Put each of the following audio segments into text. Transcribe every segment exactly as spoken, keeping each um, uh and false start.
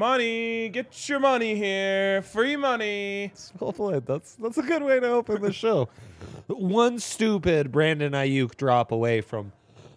Money, get your money here. Free money. Well played. That's that's a good way to open the show. One stupid Brandon Ayuk drop away from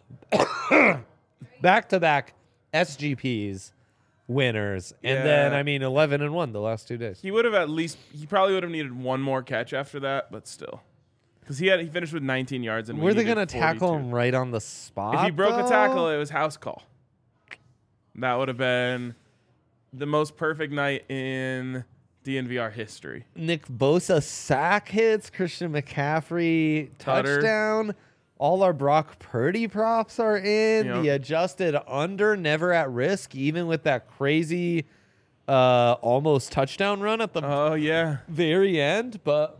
back-to-back S G Ps winners, and Yeah. then I mean eleven and one the last two days. He would have at least. He probably would have needed one more catch after that, but still, because he had he finished with nineteen yards and we Were they needed gonna tackle forty-two. him right on the spot? If he broke though? a tackle, it was house call. That would have been the most perfect night in D N V R history. Nick Bosa sack hits, Christian McCaffrey Tutter. touchdown. All our Brock Purdy props are in. Yep. The adjusted under, never at risk, even with that crazy uh, almost touchdown run at the Oh yeah, very end. But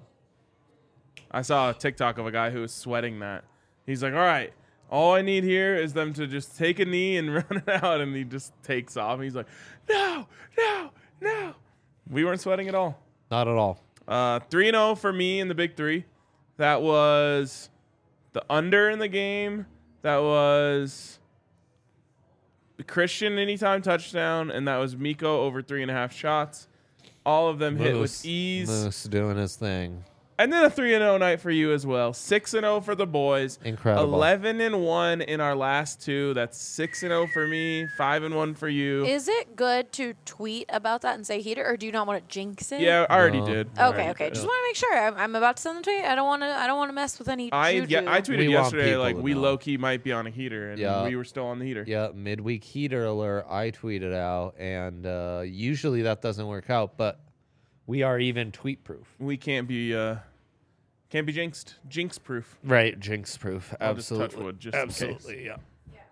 I saw a TikTok of a guy who was sweating that. He's like, "All right, all I need here is them to just take a knee and run it out," and he just takes off. He's like, "No, no, no." We weren't sweating at all. not at all. Uh, three and zero for me in the big three. That was the under in the game. That was the Christian anytime touchdown, and that was Miko over three and a half shots. All of them hit with Moose- ease. Moose doing his thing. And then a three and zero night for you as well. Six and zero for the boys. Incredible. Eleven and one in our last two. That's six and zero for me. Five and one for you. Is it good to tweet about that and say heater, or do you not want to jinx it? Yeah, I already No. did. I Okay, already okay. did. Just want to make sure. I'm, I'm about to send the tweet. I don't want to. I don't want to mess with any. I juju. yeah, I tweeted We want yesterday people like to we know. low key might be on a heater, and Yeah. we were still on the heater. Yeah, midweek heater alert. I tweeted out, and uh, usually that doesn't work out, but we are even tweet proof. We can't be uh, can't be jinxed. Jinx proof. Right, jinx proof. I'll just touch Absolutely. wood just in case. Absolutely, yeah.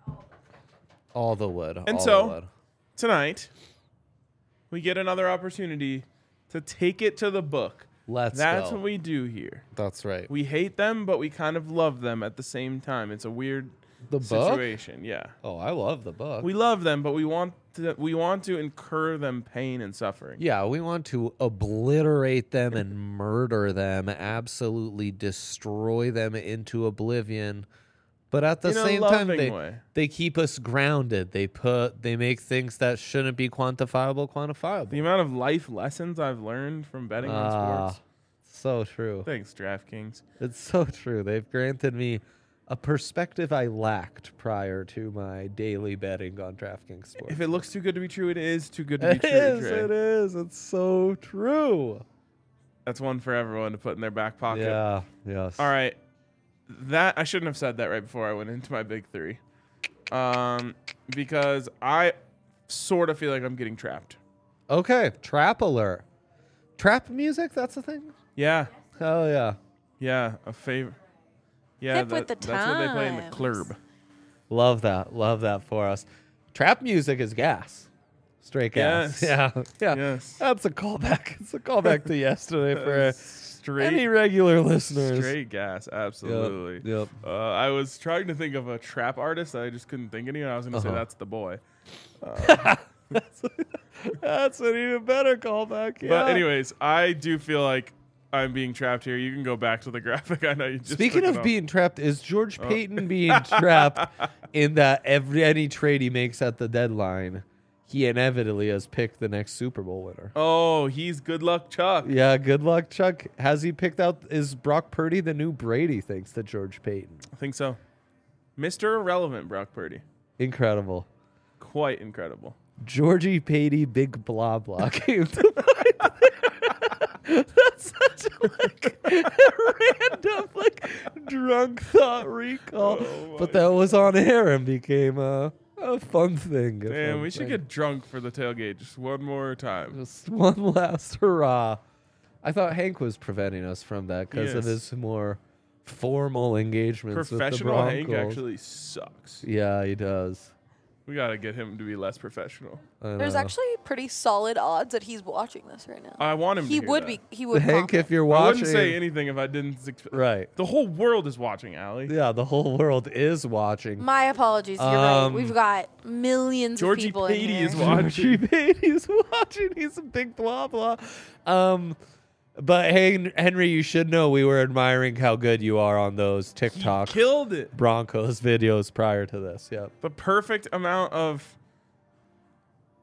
All the wood. And all so- the wood. Tonight, we get another opportunity to take it to the book. Let's That's go. what we do here. That's right. We hate them, but we kind of love them at the same time. It's a weird The book? situation. Yeah. Oh, I love the book. We love them, but we want to we want to incur them pain and suffering. yeah, we want to obliterate them and murder them, absolutely destroy them into oblivion. But at the In a same time, loving they, way. they keep us grounded. They put they make things that shouldn't be quantifiable quantifiable. The amount of life lessons I've learned from betting on Ah, sports. so true. Thanks, DraftKings. It's so true. They've granted me a perspective I lacked prior to my daily betting on DraftKings Sports. If it looks too good to be true, it is too good to be It true. is, Trey. it is. It's so true. That's one for everyone to put in their back pocket. Yeah, yes. All right. That I shouldn't have said that right before I went into my big three. Um, because I sort of feel like I'm getting trapped. Okay, trap alert. Trap music, that's the thing? Yeah. Hell yeah. Yeah. A favor. Yeah. Hip that- with the that's what they play in the times. club. Love that. Love that for us. Trap music is gas. Straight gas. Yes. Yeah. Yeah. Yes. That's a callback. It's a callback to yesterday for Straight. any regular listeners. Straight gas. Absolutely. Yep. Uh, I was trying to think of a trap artist. I just couldn't think of any. I was going to say Uh-huh. that's the boy. That's an even better callback. Yeah. But anyways, I do feel like I'm being trapped here. You can go back to the graphic. I know you just Speaking took it of off. being trapped, is George Oh. Payton being trapped in that every any trade he makes at the deadline, he inevitably has picked the next Super Bowl winner? Oh, he's good luck Chuck. Yeah, good luck, Chuck. Has he picked out, is Brock Purdy the new Brady, thanks to George Payton? I think so. Mister Irrelevant, Brock Purdy. Incredible. Quite incredible. Georgie Patey, big blah blah came to mind. That's such a like, random, like drunk thought recall. Oh but my that was on air and became a, a fun thing. a Damn, fun we should thing. get drunk for the tailgate just one more time. just one last hurrah. I thought Hank was preventing us from that because of Yes. his more formal engagements with the Professional Hank Broncos. actually sucks. Yeah, he does. We got to get him to be less professional. I There's know. actually pretty solid odds that he's watching this right now. I want him he to hear would that. be. He would. Hank, comment. if you're I watching, wouldn't say anything if I didn't. Ex- right? The whole world is watching, Allie. Yeah, the whole world is watching. My apologies. You're Um, right. We've got millions Georgie of people in Patey here. is watching. Georgie Patey's watching. He's a big blah blah. Um, but hey, Henry, you should know we were admiring how good you are on those He TikTok killed it. Broncos videos prior to this. Yep. The perfect amount of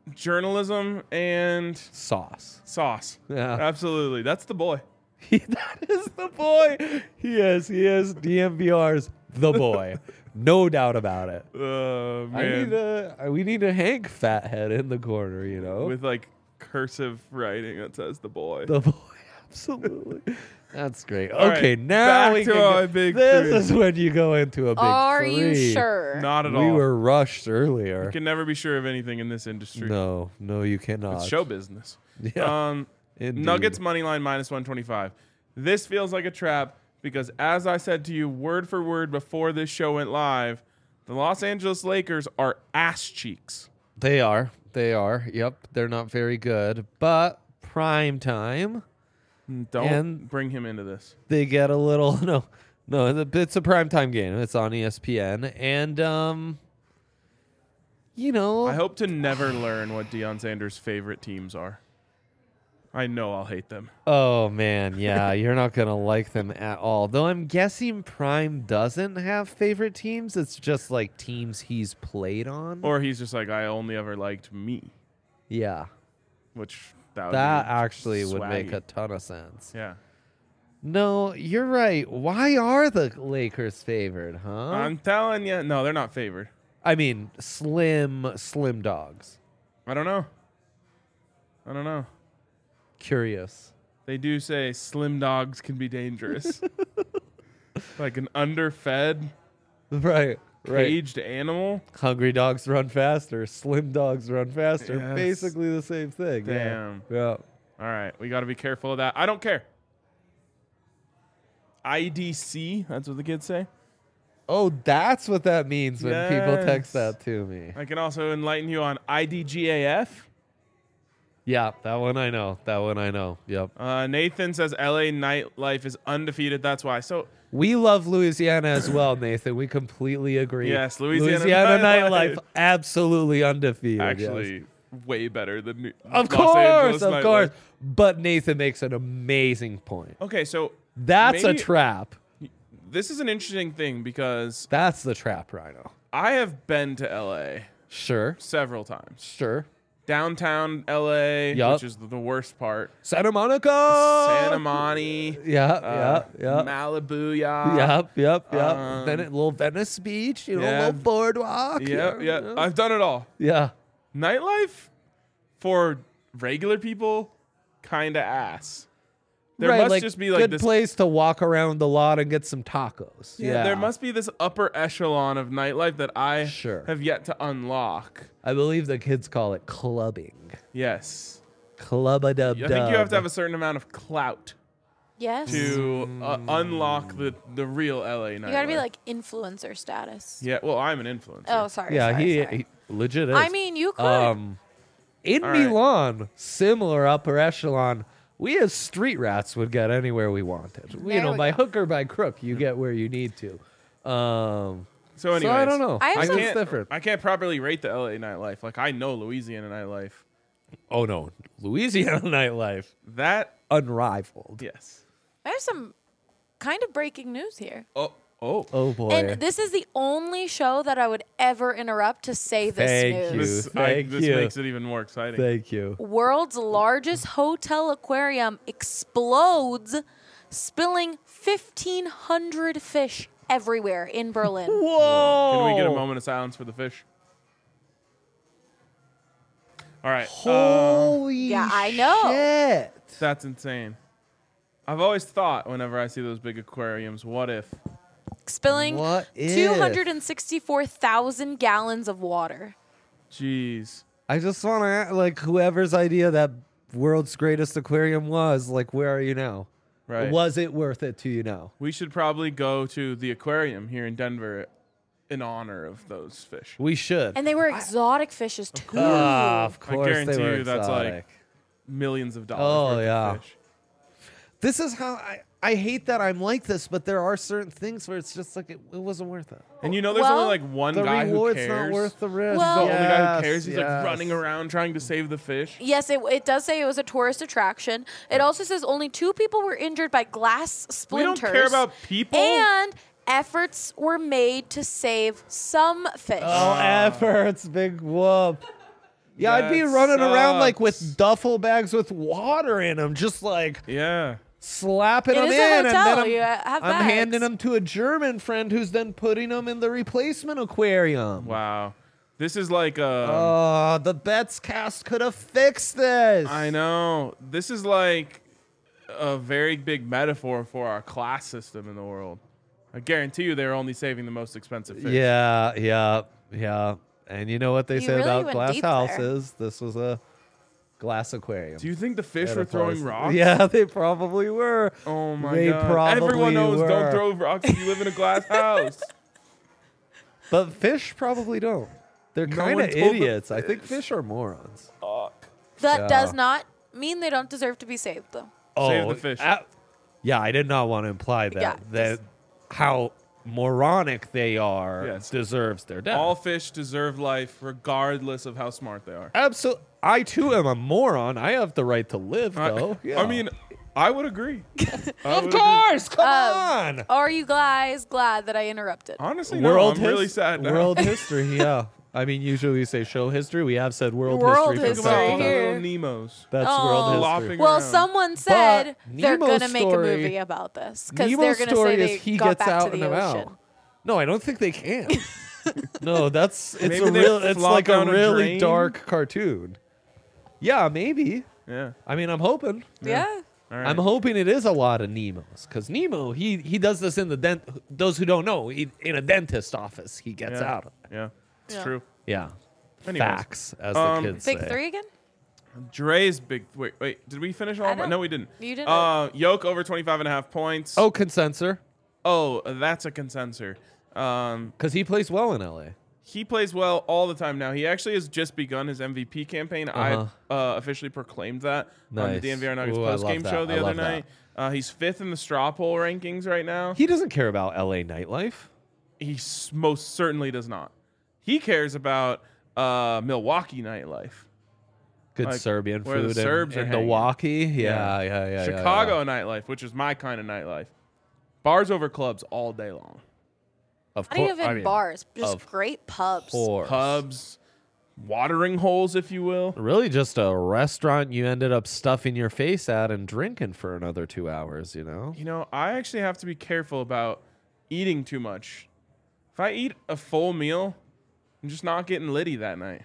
journalism and Sauce. sauce. Yeah. Absolutely. That's the boy. He, that is the boy. He is. He is D M V R's the boy. No doubt about it. Uh, I need man. a, we need a Hank fathead in the corner, you know? With like cursive writing that says the boy. the boy. Absolutely. That's great. All right, Okay, now back we to can our go- big This three. is when you go into a big Are three. you sure? Not at We all. were rushed earlier. You can never be sure of anything in this industry. No, no, you cannot. It's show business. Yeah. Um, Indeed. Nuggets money line minus one twenty-five. This feels like a trap because, as I said to you word for word before this show went live, the Los Angeles Lakers are ass cheeks. They are. They are. Yep. They're not very good. But prime time, Don't And- bring him into this. they get a little no, no. It's a, it's a prime time game. It's on E S P N, and um, you know, I hope to never learn what Deion Sanders' favorite teams are. I know I'll hate them. oh man, yeah, you're not gonna like them at all. Though I'm guessing Prime doesn't have favorite teams. It's just like teams he's played on. Or he's just like, I only ever liked me, yeah, which that would that be actually would make swaggy. a ton of sense. Yeah. No, you're right. Why are the Lakers favored, huh? I'm telling you. No, they're not favored. I mean, slim, slim dogs. I don't know. I don't know. Curious. They do say slim dogs can be dangerous. Like an underfed, Right, right. caged animal. Hungry dogs run faster. Slim dogs run faster. Yes. Basically the same thing. Yeah. Damn. Yeah. All right, we got to be careful of that. I don't care. I D C, that's what the kids say. Oh, that's what that means when people text Yes. that to me. I can also enlighten you on I D G A F. Yeah, that one I know. That one I know. Yep. Uh, Nathan says L A nightlife is undefeated. That's why. So We love Louisiana as well, Nathan. We completely agree. Yes, Louisiana Louisiana nightlife. nightlife, absolutely undefeated. yes. actually, way better than New- Of Los course, Angeles of nightlife. course. But Nathan makes an amazing point. Okay, so That's maybe- a trap. This is an interesting thing because That's the trap, Rhino. I have been to L A Sure, several times. sure. Downtown L A, Yup. which is the worst part. Santa Monica. Santa Monte. Yeah, uh, yeah, yeah. Malibu, yeah. Yep, yep, yep. Um, Ven- little Venice Beach, you know, yeah. little boardwalk. Yep, yeah, yeah. I've done it all. yeah. Nightlife for regular people, kind of ass. There right, must like, just be like good this. place to walk around the lot and get some tacos. yeah, Yeah, there must be this upper echelon of nightlife that I Sure. have yet to unlock. I believe the kids call it clubbing. Yes. Club a dub I think you have to have a certain amount of clout Yes. to uh, unlock the, the real L A nightlife. You gotta be like influencer status. Yeah, well, I'm an influencer. Oh, sorry. Yeah, sorry, he, sorry. he legit is. I mean, you could. um, in All right. Milan, similar upper echelon. We as street rats would get anywhere we wanted. you There know, we by go. hook or by crook, you get where you need to. Um, So anyways, so I don't know. I have I some- think it's different. I can't properly rate the L A nightlife. Like I know Louisiana nightlife. Oh no, Louisiana nightlife That unrivaled. yes. I have some kind of breaking news here. Oh oh. Oh boy. And this is the only show that I would ever interrupt to say this Thank news. you. This, I, Thank this you. makes it even more exciting. Thank you. World's largest hotel aquarium explodes, spilling fifteen hundred fish everywhere in Berlin. Whoa! Can we get a moment of silence for the fish? All right. uh, Holy Yeah, I know. shit. that's insane. I've always thought whenever I see those big aquariums, what if? Spilling What if? two hundred sixty-four thousand gallons of water. Jeez. I just want to like whoever's idea that world's greatest aquarium was, like, where are you now? Right. Was it worth it to you now? We should probably go to the aquarium here in Denver in honor of those fish. We should. And they were exotic fishes too. Ah, of I course guarantee they were you that's like exotic. millions of dollars Oh, worth yeah. of fish. This is how I, I hate that I'm like this, but there are certain things where it's just like it, it wasn't worth it. And you know there's Well, only like one The guy who reward's cares. not worth the risk. Well- the only guy who Yes, cares. He's like yes. running around trying to save the fish. Yes, it, it does say it was a tourist attraction. It also says only two people were injured by glass We splinters. don't care about people. And efforts were made to save some fish. Oh, efforts, big whoop. Yeah, I'd be That running around like with sucks. duffel bags with water in them, just like Yeah. slapping It them is in, a and then hotel. I'm, You have I'm bags. handing them to a German friend who's then putting them in the replacement aquarium. Wow. This is like um, Oh, the Bets cast could have fixed this. I know. This is like a very big metaphor for our class system in the world. I guarantee you they're only saving the most expensive fish. Yeah, yeah, yeah. And you know what they You say really about went glass deep there. houses? This was a glass aquarium. Do you think the fish At were a throwing place. rocks? Yeah, they probably were. Oh my They god. probably Everyone knows were. don't throw rocks if you live in a glass house. But fish probably don't. They're No kind one of told them idiots. I think this. fish are morons. That Yeah. does not mean they don't deserve to be saved, though. Save the fish. a- yeah, I did not want to imply that Yeah, that just- how moronic they are Yes. deserves their death. All fish deserve life regardless of how smart they are. Absolutely. I too am a moron. I have the right to live, I- though. Yeah. I mean, I would agree. I of would agree. course. Come Um, on. Are you guys glad that I interrupted? Honestly, no, World I'm really his- sad now. World history. Yeah. I mean, usually we say show history. We have said world, World history. Think for about history all the some here. little Nemos. That's Oh. world history. Flopping Well, around. someone said they're Nemo's gonna make a story- movie about this because Nemo's they're gonna story say they is he got gets back out to the and ocean. about. No, I don't think they can. No, that's it's Maybe a they real. It's flop like a down a really drain? dark cartoon. Yeah, maybe. Yeah. I mean, I'm hoping. Yeah. All right. I'm hoping it is a lot of Nemos because Nemo he he does this in the dent. Those who don't know, he, in a dentist office, he gets yeah. out. Yeah. It's Yeah. true. Yeah, Anyways. facts as Um, the kids Big say. three again? Dre's big. Wait, wait. Did we finish all I of our? don't- No, we didn't. You didn't. Uh, Yoke over twenty-five and a half points. Oh, consensor, Oh, that's a consensor. Um, because he plays well in L A. he plays well all the time now. He actually has just begun his M V P campaign. Uh-huh. I uh, officially proclaimed that on the Nice. D N V R Nuggets Ooh, I post game love show that. the I other love that. night. Uh, he's fifth in the straw poll rankings right now. He doesn't care about L A nightlife. He s- most certainly does not. He cares about uh, Milwaukee nightlife. Good Like, Serbian where the food in- Serbs are in, hanging. Milwaukee. Yeah. Yeah, yeah, yeah. yeah, Chicago yeah. nightlife, which is my kind of nightlife. Bars over clubs all day long. Of Not course, even I mean, bars, just of great pubs. course. Pubs, watering holes, if you will. Really, just a restaurant you ended up stuffing your face at and drinking for another two hours. You know. You know, I actually have to be careful about eating too much. If I eat a full meal, I'm just not getting litty that night.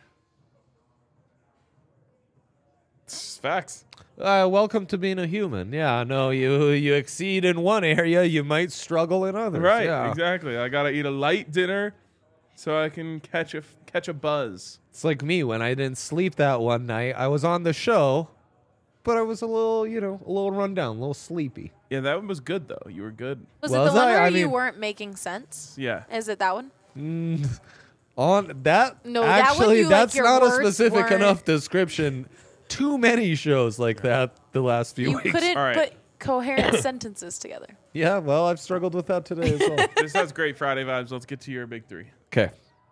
It's facts. Uh, welcome to being a human. Yeah, no, you you exceed in one area, you might struggle in others. Right, yeah. exactly. I gotta eat a light dinner so I can catch a catch a buzz. It's like me when I didn't sleep that one night. I was on the show, but I was a little, you know, a little run down, a little sleepy. Yeah, that one was good though. You were good. Was Was it the one I? where I you mean- weren't making sense? Yeah. Is it that one? Mm, on that, No, that one actually, you, like, that's your not a words specific weren't- enough description. Too many shows like that the last few You weeks. couldn't All right. put coherent sentences together. Yeah, well, I've struggled with that today as well. This has great Friday vibes. Let's get to your big three. Okay.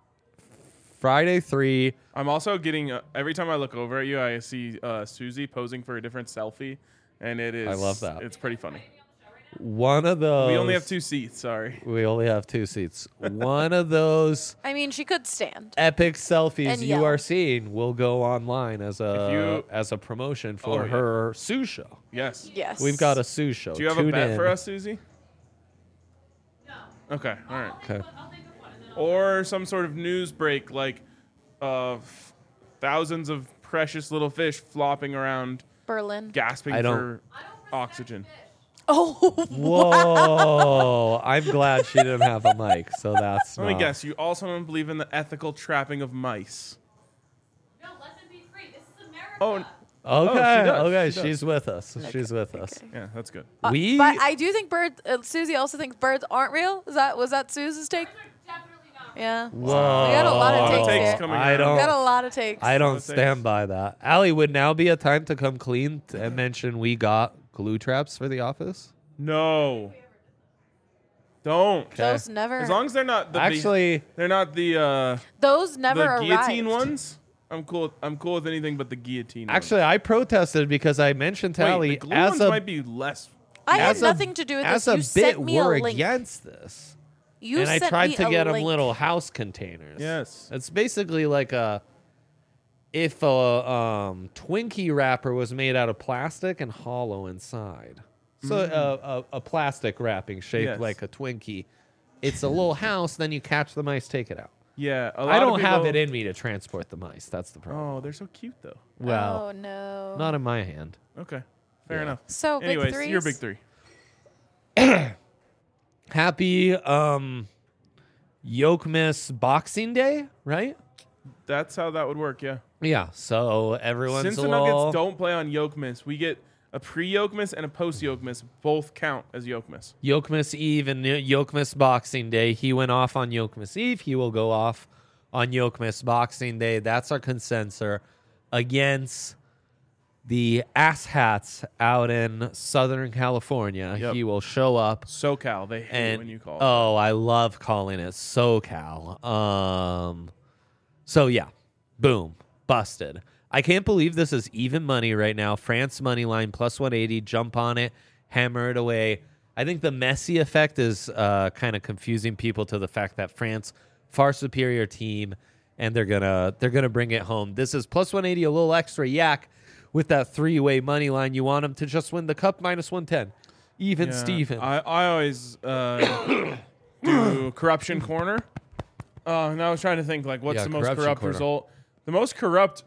Friday three. I'm also getting uh, every time I look over at you, I see uh, Susie posing for a different selfie, and it is. I love that. It's pretty funny. One of those. We only have two seats. Sorry. We only have two seats. One of those I mean, she could stand. epic selfies And you yell. are seeing will go online as a If you- as a promotion for Oh, yeah. her Sue show. Yes. Yes. We've got a Sue show. Do you have Tune a bet in. for us, Susie? No. Okay. All right. Okay. Or some sort of news break, like uh, f- thousands of precious little fish flopping around, Berlin. gasping I don't- for oxygen. Oh, Whoa! I'm glad she didn't have a mic, so that's. Let me not- guess. You also don't believe in the ethical trapping of mice. No, let them be free. This is America. Oh, n- Okay, does, okay, she does. she's with us. She's with us. yeah, that's good. Uh, We- But I do think birds. Uh, Susie also thinks birds aren't real. Is that was that Susie's take? Definitely not. Yeah. Whoa! We got a lot of A lot of takes takes here. coming I around. don't. We got a lot of takes. I don't What takes? stand by that. Allie, would now be a time to come clean and mention we got glue traps for the office? No. Don't. Those never. As long as they're not the Actually, they're not the uh, those never the arrived. guillotine ones. I'm cool. I'm cool with anything but the guillotine. actually, I protested because I mentioned to ones. Allie Wait, the glue as ones a might be less. I had as a- nothing to do with as this. a You bit sent me we're a link. against this. You and I sent tried me to a get them link. little house containers. Yes. It's basically like a if a um, Twinkie wrapper was made out of plastic and hollow inside. So uh, a, a plastic wrapping shaped Yes. like a Twinkie. It's a little house, then you catch the mice, take it out. Yeah, a lot I of don't have people- it in me to transport the mice. That's the problem. Oh, they're so cute though. Well, oh no. not in my hand. Okay, fair Yeah. enough. So big Anyways, threes. your big three. Happy um, Yokmas Boxing Day, right? That's how that would work. Yeah. Yeah. So everyone's Since a the little... Nuggets don't play on Yokemas, we get a pre-Yokemas and a post-Yokemas. Both count as Yokemas. Yokmas Eve and Yokmas Boxing Day. He went off on Yokmas Eve. He will go off on Yokmas Boxing Day. That's our consensus against the asshats out in Southern California. Yep. He will show up. SoCal, they hate And when you call it. oh, I love calling it SoCal. Um, so yeah, boom, busted. I can't believe this is even money right now. France money line plus one eighty. Jump on it, hammer it away. I think the Messi effect is uh, kind of confusing people to the fact that France far superior team, and they're gonna they're gonna bring it home. This is plus one eighty, a little extra yak with that three way money line. You want them to just win the cup minus one ten. Even Yeah, Steven. I, I always uh, do corruption corner. Uh, and I was trying to think, like, what's Yeah, the most corruption corrupt corner. result? The most corrupt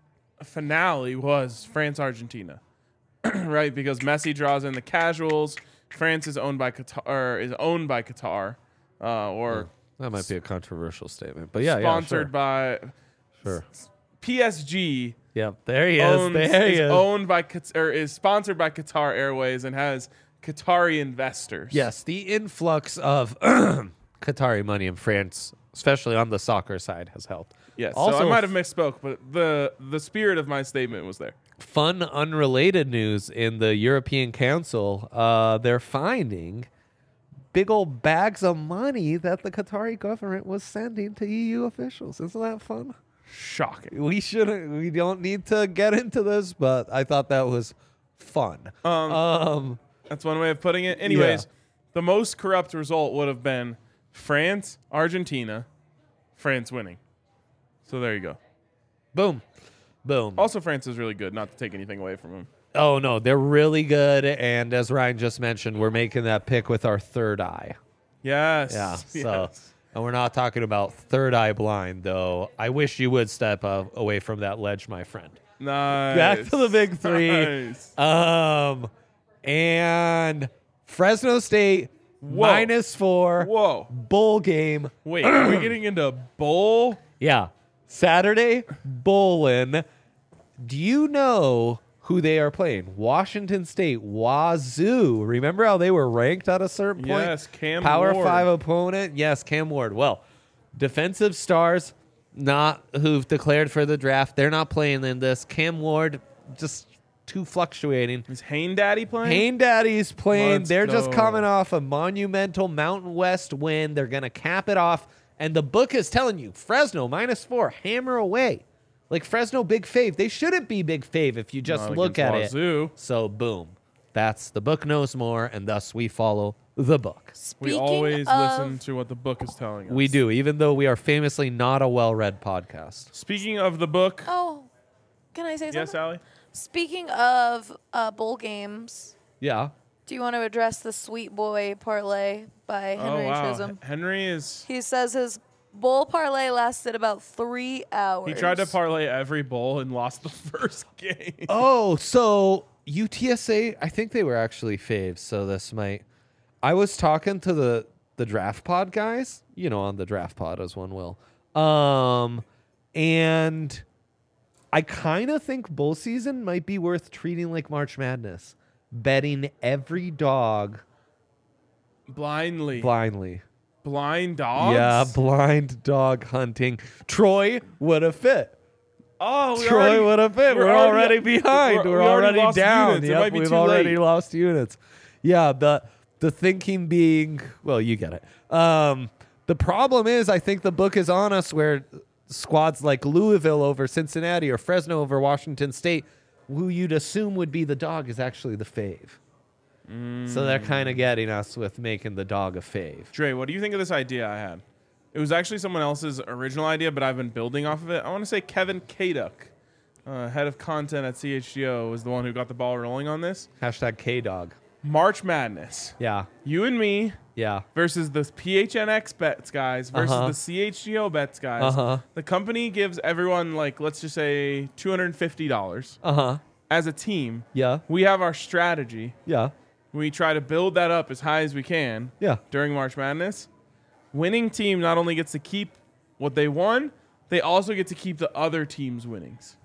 finale was France-Argentina, right? Because Messi draws in the casuals. France is owned by Qatar, or is owned by Qatar, uh, or That might be a controversial statement, but yeah, sponsored yeah, by sure. sure. P S G. Yep, there he Owns, is. There he is is. owned by Qat- or is sponsored by Qatar Airways and has Qatari investors. Yes, the influx of Qatari money in France, especially on the soccer side, has helped. Yes. Also, so I might have misspoke, but the the spirit of my statement was there. fun, unrelated news in the European Council. Uh, they're finding big old bags of money that the Qatari government was sending to E U officials. Isn't that fun? Shocking. We shouldn't. We don't need to get into this, but I thought that was fun. Um, Um, That's one way of putting it. Anyways, the most corrupt result would have been France, Argentina, France winning. So there you go. boom, boom. Also, France is really good. Not to take anything away from them. Oh no, they're really good. And as Ryan just mentioned, we're making that pick with our third eye. Yes. Yeah. So, Yes. and we're not talking about third eye blind, though. I wish you would step uh, away from that ledge, my friend. Nice. Back to the big three. Nice. Um, and Fresno State Whoa. minus four Whoa. bowl game. Wait, are we getting into bowl? Yeah, Saturday bowling. Do you know who they are playing? Washington State, Wazoo. Remember how they were ranked at a certain point? Yes, Cam Power Ward. five opponent. Yes, Cam Ward. Well, defensive stars, not who've declared for the draft. They're not playing in this. Cam Ward, just too fluctuating. Is Hain Daddy playing? Hain Daddy's playing. Let's They're just go. coming off a monumental Mountain West win. They're going to cap it off. And the book is telling you, Fresno, minus four, hammer away. Like Fresno, big fave. They shouldn't be big fave if you just Not look at against it. Wazoo. So, boom. That's the book knows more, and thus we follow the book. We Speaking always of, listen to what the book is telling us. We do, even though we are famously not a well-read podcast. Speaking of the book, Oh, can I say something? yes, Allie? Speaking of uh, bowl games, Yeah. do you want to address the Sweet Boy parlay by Henry oh, wow. Chisholm? Henry is... He says his bowl parlay lasted about three hours. He tried to parlay every bowl and lost the first game. Oh, so U T S A, I think they were actually faves, so this might. I was talking to the the draft pod guys, you know, on the draft pod as one will. Um and I kind of think bowl season might be worth treating like March Madness. Betting every dog Blindly. blindly. Blind dogs? Yeah, blind dog hunting. Troy would have fit. Oh, we Troy already- would have fit. we're We're, already, already- behind. we're- We're, we already already, lost down. units. It Yep, might be we've too already late. lost units. Yeah, the the thinking being, well, you get it. Um, the problem is, I think the book is on us where squads like Louisville over Cincinnati or Fresno over Washington State, who you'd assume would be the dog, is actually the fave. So they're kind of getting us with making the dog a fave. Dre, what do you think of this idea I had? It was actually someone else's original idea, but I've been building off of it. I want to say Kevin Kaduk uh, head of content at C H G O, was the one who got the ball rolling on this. Hashtag K-Dog. March Madness. Yeah. You and me Yeah. versus the P H N X bets guys versus Uh-huh. the C H G O bets guys. Uh-huh. The company gives everyone, like, let's just say two hundred fifty dollars Uh-huh. as a team. Yeah. We have our strategy. Yeah. We try to build that up as high as we can Yeah. during March Madness. Winning team not only gets to keep what they won, they also get to keep the other team's winnings.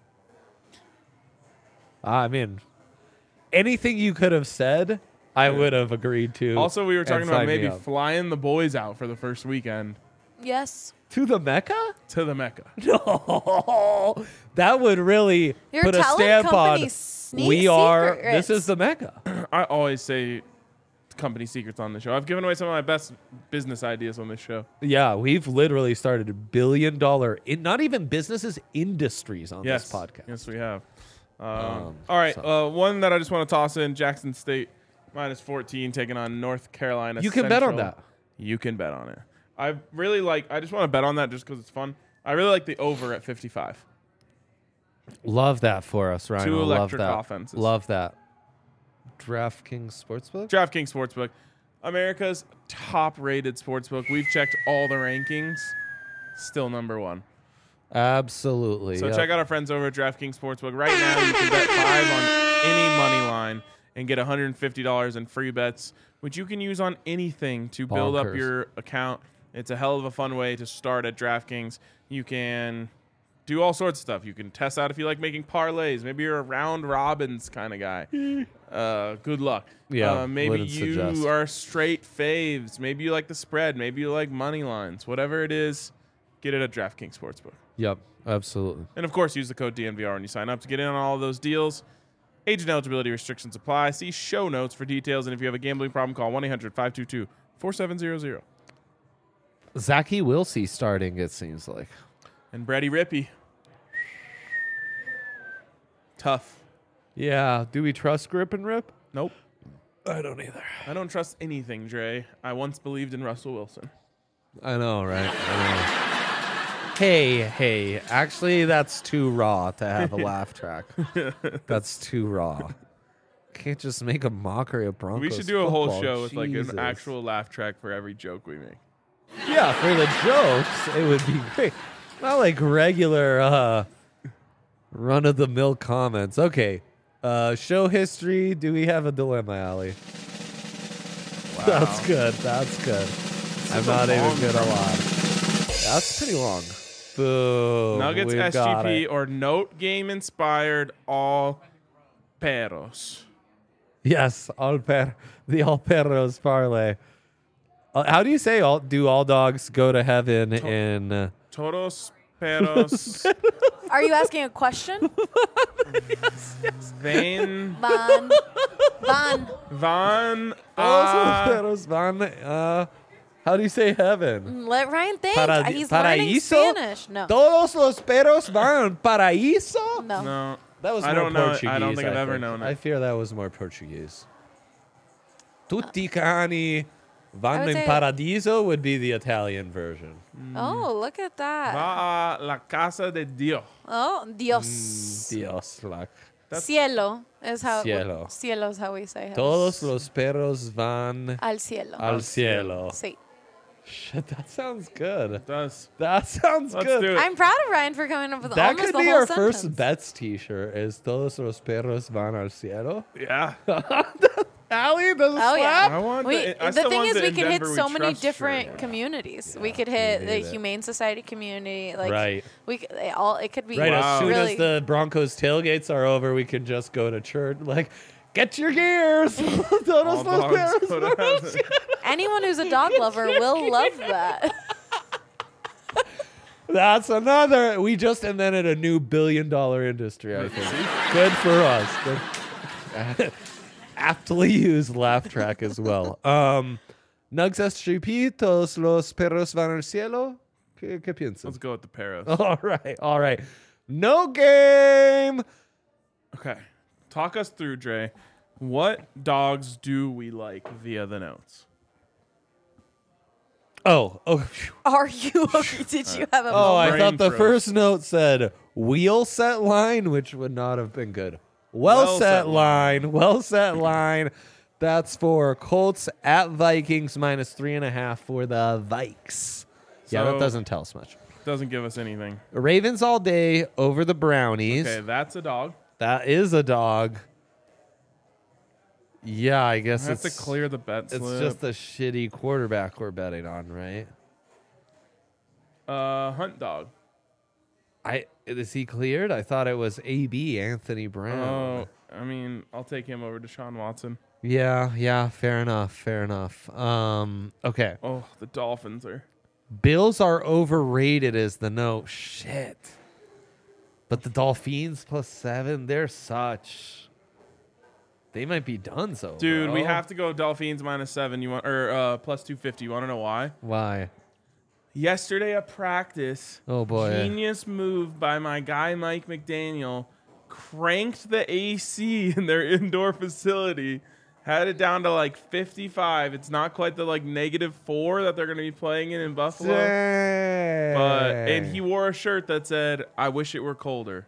I mean, anything you could have said, I would have agreed to. Also, we were and talking about signed me maybe up. flying the boys out for the first weekend Yes. to the Mecca? to the Mecca. No, that would really Your put a talent stamp company on. sneak We are. secrets. This is the Mecca. I always say company secrets on the show. I've given away some of my best business ideas on this show. Yeah, we've literally started a billion dollar, in not even businesses, industries on Yes, this podcast. yes, we have. Um, Um, all right, so- uh, one that I just want to toss in: Jackson State minus fourteen taking on North Carolina. You can bet on Central. that. You can bet on it. I really like. I just want to bet on that just because it's fun. I really like the over at fifty-five. Love that for us, Ryan. Two Love electric that. offenses. Love that. DraftKings Sportsbook? DraftKings Sportsbook, America's top-rated sportsbook. We've checked all the rankings. Still number one. Absolutely. So yep. check out our friends over at DraftKings Sportsbook. Right now, you can bet five on any money line and get one hundred fifty dollars in free bets, which you can use on anything to build up Bonkers. your account. It's a hell of a fun way to start at DraftKings. You can do all sorts of stuff. You can test out if you like making parlays. Maybe you're a round robins kind of guy. Uh, good luck. Yeah, Uh, maybe wouldn't you suggest. are straight faves. Maybe you like the spread. Maybe you like money lines. Whatever it is, get it at DraftKings Sportsbook. Yep, absolutely. And of course, use the code D N V R when you sign up to get in on all of those deals. Age and eligibility restrictions apply. See show notes for details. And if you have a gambling problem, call one eight hundred five two two four seven zero zero. Zachy Wilsey starting, it seems like. And Brady Rippey. Tough. Yeah. Do we trust Grip and Rip? Nope. I don't either. I don't trust anything, Dre. I once believed in Russell Wilson. I know, right? I know. Hey, hey. Actually, that's too raw to have a laugh track. That's too raw. Can't just make a mockery of Broncos. We should do a whole football. show with like Jesus. an actual laugh track for every joke we make. Yeah, for the jokes, it would be great. Not like regular uh, run of the mill comments. Okay. Uh, show history. Do we have a dilemma, Allie? Wow. That's good. That's good. I'm is a not even long gonna one. lie. That's pretty long. Boom. Nuggets We've S G got P it. or note game inspired all perros. Yes, all per the all perros parlay. Uh, how do you say all? Do all dogs go to heaven in? Uh, Todos perros Are you asking a question? vain Van. Van. van todos los a perros van. Uh, how do you say heaven? Let Ryan think. Paradi- He's learning paraíso? Spanish. No. Todos los perros van al paraíso. No. no. That was I more don't know it. Portuguese. I don't think I've ever think. known it. I fear that was more Portuguese. Tutti cani I vanno would in say- paradiso would be the Italian version. Oh, look at that. Va a la casa de Dios. Oh, Dios. Dios, like. That's- Cielo is how. Cielo. Cielo is how we say it. Todos los perros van Al cielo. al cielo. Sí. Shit, that sounds good. It does. That sounds Let's good. do it. I'm proud of Ryan for coming up with That almost could the be whole our sentence. first bets T-shirt. Is todos los perros van al cielo? Yeah. Allie, does it Oh, yeah. slap? I want We, the, I the still thing want is, the we in could hit Denver so we many trust different shirt. communities. we could hit we the hate it. Humane Society community. Like, Right. We could, they all. It could be Right, Wow. as soon really. as the Broncos tailgates are over, we can just go to church. Like, get your gears. Todos All los dogs perros go to van al heaven. cielo. Anyone who's a dog lover will love that. That's another. We just invented a new billion dollar industry, I think. Good for us. Good. Aptly used laugh track as well. Um, Nugs S G P, todos los perros van al cielo. ¿Qué, qué piensas? Let's go with the perros. All right, all right. No game. Okay. Talk us through, Dre. What dogs do we like via the notes? Oh, oh, phew. Are you okay? Did you have a oh! I brain thought the froze. first note said wheel set line, which would not have been good. Well, Well set set line, well set line. That's for Colts at Vikings minus three and a half for the Vikes. Yeah, that So- doesn't tell us much. Doesn't give us anything. Ravens all day over the Brownies. Okay, that's a dog. That is a dog. Yeah, I guess I have it's to clear the bet It's slip. just a shitty quarterback we're betting on, right? uh, hunt dog. I is he cleared? I thought it was A B Anthony Brown. Oh, I mean, I'll take him over Deshaun Watson. Yeah, yeah, fair enough, fair enough. Um, okay. Oh, the Dolphins are. Bills are overrated is the note. Shit. But the Dolphins plus seven, they're such. They might be done so. Dude, we bro. have to go Dolphins minus seven. You want or uh, plus two fifty? You want to know why? Why? Yesterday at practice, Oh boy. genius move by my guy Mike McDaniel, cranked the A C in their indoor facility, had it down to like fifty-five. It's not quite the like negative four that they're going to be playing in in Buffalo, but and he wore a shirt that said, "I wish it were colder."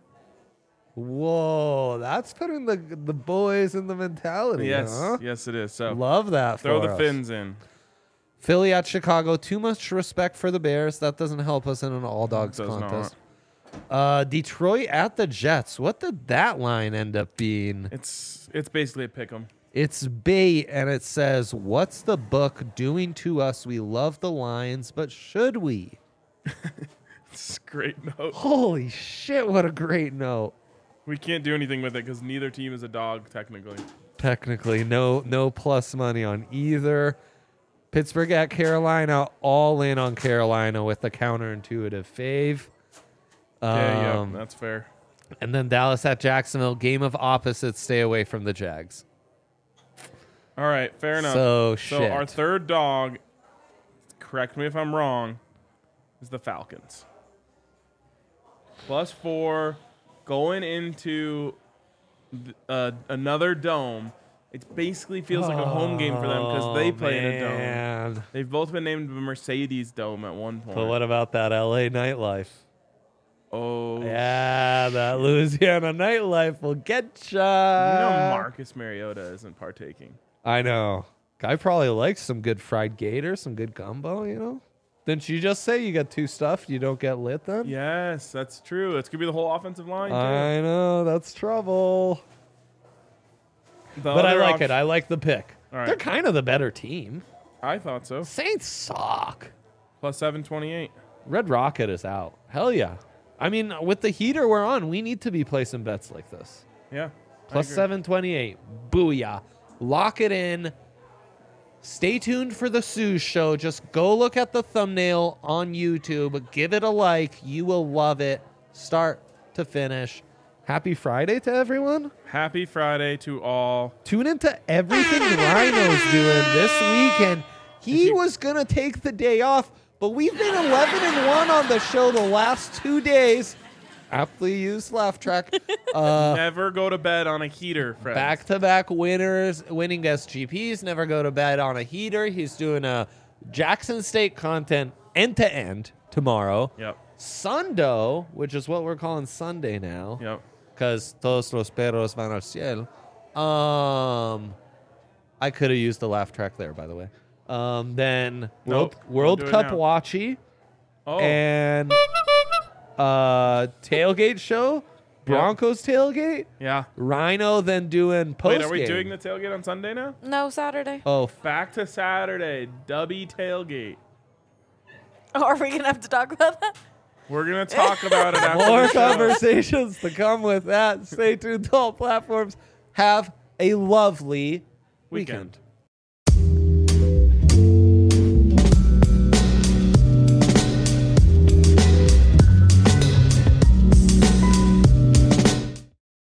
Whoa, that's putting the the boys in the mentality. Yes, huh? yes, it is. So Love that. throw for the us. fins in. Philly at Chicago. Too much respect for the Bears. That doesn't help us in an all dogs Does not. contest. Uh, Detroit at the Jets. What did that line end up being? It's it's basically a pick 'em. It's bait, and it says, "What's the book doing to us? We love the Lions, but should we?" It's a great note. Holy shit! What a great note. We can't do anything with it because neither team is a dog technically. Technically, no no plus money on either. Pittsburgh at Carolina, all in on Carolina with the counterintuitive fave. Yeah, Um, yeah, that's fair. And then Dallas at Jacksonville, game of opposites. Stay away from the Jags. All right, fair enough. So, So shit. our third dog, correct me if I'm wrong, is the Falcons. Plus four, going into th- uh, another dome. It basically feels like a home game for them because they Oh, play in a dome. man. They've both been named the Mercedes Dome at one point. But what about that L A nightlife? Oh, Yeah, that Louisiana nightlife will get you ya. know Marcus Mariota isn't partaking. I know. Guy probably likes some good fried gator, some good gumbo, you know? Didn't you just say you got two stuffed, you don't get lit then? Yes, that's true. It's gonna be the whole offensive line. Too. I know, that's trouble. The But I other like op- it. I like the pick. All right. They're kind of the better team. I thought so. Saints suck. Plus seven twenty-eight. Red Rocket is out. Hell yeah. I mean, with the heater we're on, we need to be placing bets like this. Yeah. I Plus agree. seven twenty-eight. Booyah. Lock it in. Stay tuned for the Suze show. Just go look at the thumbnail on YouTube. Give it a like. You will love it. Start to finish. Happy Friday to everyone. Happy Friday to all. Tune into everything Rhino's doing this weekend. He you- was going to take the day off, but we've been eleven and one on the show the last two days. Aptly used laugh track. Uh, Never go to bed on a heater, friends. Back to back winners, winning S G Ps. Never go to bed on a heater. He's doing a Jackson State content end to end tomorrow. Yep. Sundo, which is what we're calling Sunday now, Yep. because todos los perros van al cielo. Um, I could have used the laugh track there, by the way. Um, then World, Nope, World don't do it Cup now. watchy Oh. and uh, tailgate show, Broncos tailgate. yeah. Rhino then doing post. Wait, are we doing the tailgate on Sunday now? No, Saturday. Oh, f- Back to Saturday. Dubby tailgate. Oh, are we gonna have to talk about that? We're gonna talk about it after more the show. conversations to come with that. Stay tuned to all platforms. Have a lovely Weekend. weekend.